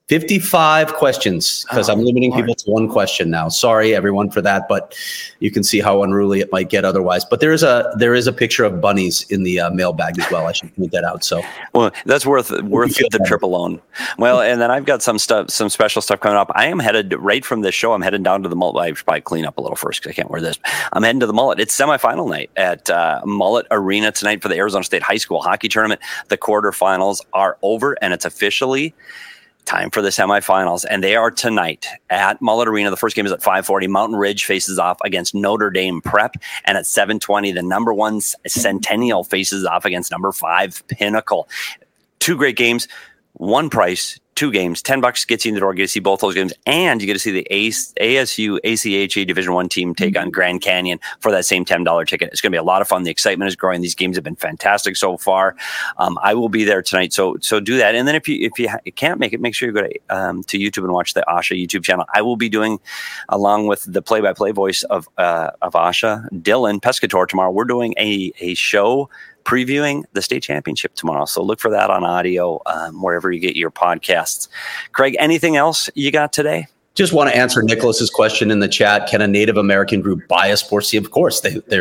55 questions, because I'm limiting people to one question now. Sorry, everyone, for that, but you can see how unruly it might get otherwise. But there is a picture of bunnies in the mailbag as well. I should point that out. So, well, that's worth the trip alone. Well, and then I've got some special stuff coming up. I am headed right from this show. I'm headed down to the Mullet. I should probably clean up a little first because I can't wear this. I'm heading to the Mullet. It's semifinal night at Mullet Arena tonight for the Arizona State High School Hockey Tournament. The quarterfinals are over, and it's officially time for the semifinals, and they are tonight at Mullet Arena. The first game is at 5:40. Mountain Ridge faces off against Notre Dame Prep, and at 7:20, the number 1 Centennial faces off against number 5 Pinnacle. Two great games, one price, 2 games, $10 gets you in the door. You get to see both those games, and you get to see the ASU ACHA Division I team take on Grand Canyon for that same $10 ticket. It's going to be a lot of fun. The excitement is growing. These games have been fantastic so far. I will be there tonight, so do that. And then if you can't make it, make sure you go to YouTube and watch the Asha YouTube channel. I will be doing, along with the play-by-play voice of Asha, Dylan Pescator tomorrow. We're doing a show previewing the state championship tomorrow. So look for that on audio, wherever you get your podcasts. Craig, anything else you got today? Just want to answer Nicholas's question in the chat. Can a Native American group buy a sports team? Of course,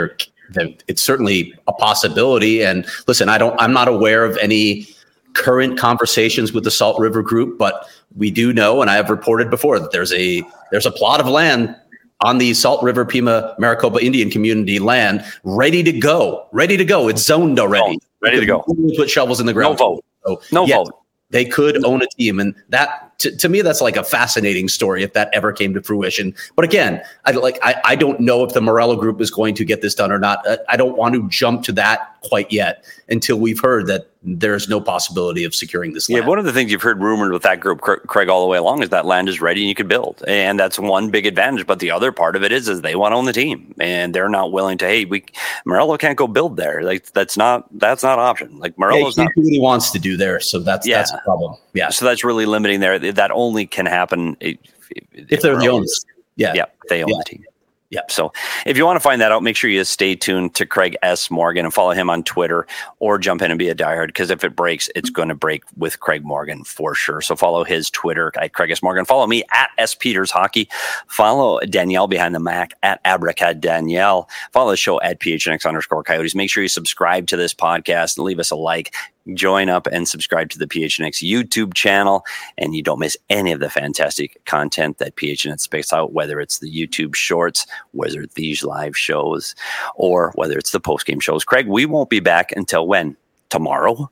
it's certainly a possibility. And listen, I'm not aware of any current conversations with the Salt River Group, but we do know, and I have reported before, that there's a plot of land on the Salt River Pima Maricopa Indian community land, ready to go. It's zoned already. Ready to go. Put shovels in the ground. No vote. They could own a team. And that, to me, that's like a fascinating story if that ever came to fruition. But again, I don't know if the Morello Group is going to get this done or not. I don't want to jump to that quite yet until we've heard that there's no possibility of securing this land. Yeah, one of the things you've heard rumored with that group, Craig, all the way along is that land is ready and you can build. And that's one big advantage. But the other part of it is they want to own the team. And they're not willing to, Morello can't go build there. Like that's not an option. Like Morello's not. He really wants to do there. So that's a problem. Yeah. So that's really limiting there. That only can happen if they're the owners. Yeah. They own the team. Yeah. So if you want to find that out, make sure you stay tuned to Craig S. Morgan and follow him on Twitter, or jump in and be a diehard, because if it breaks, it's going to break with Craig Morgan for sure. So follow his Twitter at Craig S. Morgan. Follow me at S. Peters Hockey. Follow Danielle behind the Mac at Abracad Danielle. Follow the show at PHNX_Coyotes. Make sure you subscribe to this podcast and leave us a like. Join up and subscribe to the PHNX YouTube channel, and you don't miss any of the fantastic content that PHNX spits out, whether it's the YouTube shorts, whether it's these live shows, or whether it's the post-game shows. Craig, we won't be back until when? Tomorrow?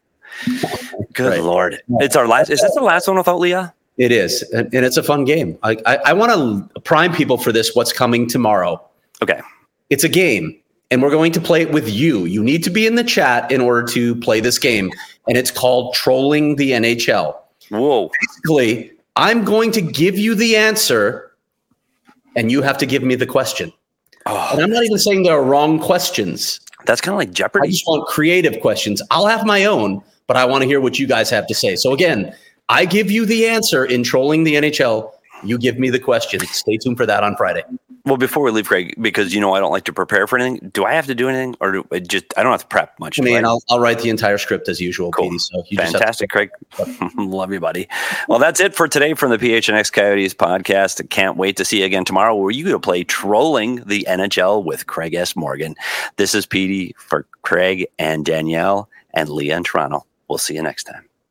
Good Lord. It's our last. Is this the last one without Leah? It is, and it's a fun game. I want to prime people for this, what's coming tomorrow. Okay. It's a game. And we're going to play it with you. You need to be in the chat in order to play this game. And it's called Trolling the NHL. Whoa. Basically, I'm going to give you the answer, and you have to give me the question. Oh. And I'm not even saying there are wrong questions. That's kind of like Jeopardy. I just want creative questions. I'll have my own, but I want to hear what you guys have to say. So again, I give you the answer in Trolling the NHL. You give me the question. Stay tuned for that on Friday. Well, before we leave, Craig, because I don't like to prepare for anything. Do I have to do anything, or I don't have to prep much? I mean, I'll write the entire script as usual, cool. Petey. So Fantastic, Craig. Love you, buddy. Well, that's it for today from the PHNX Coyotes podcast. Can't wait to see you again tomorrow, where you're going to play Trolling the NHL with Craig S. Morgan. This is Petey for Craig and Danielle and Leah in Toronto. We'll see you next time.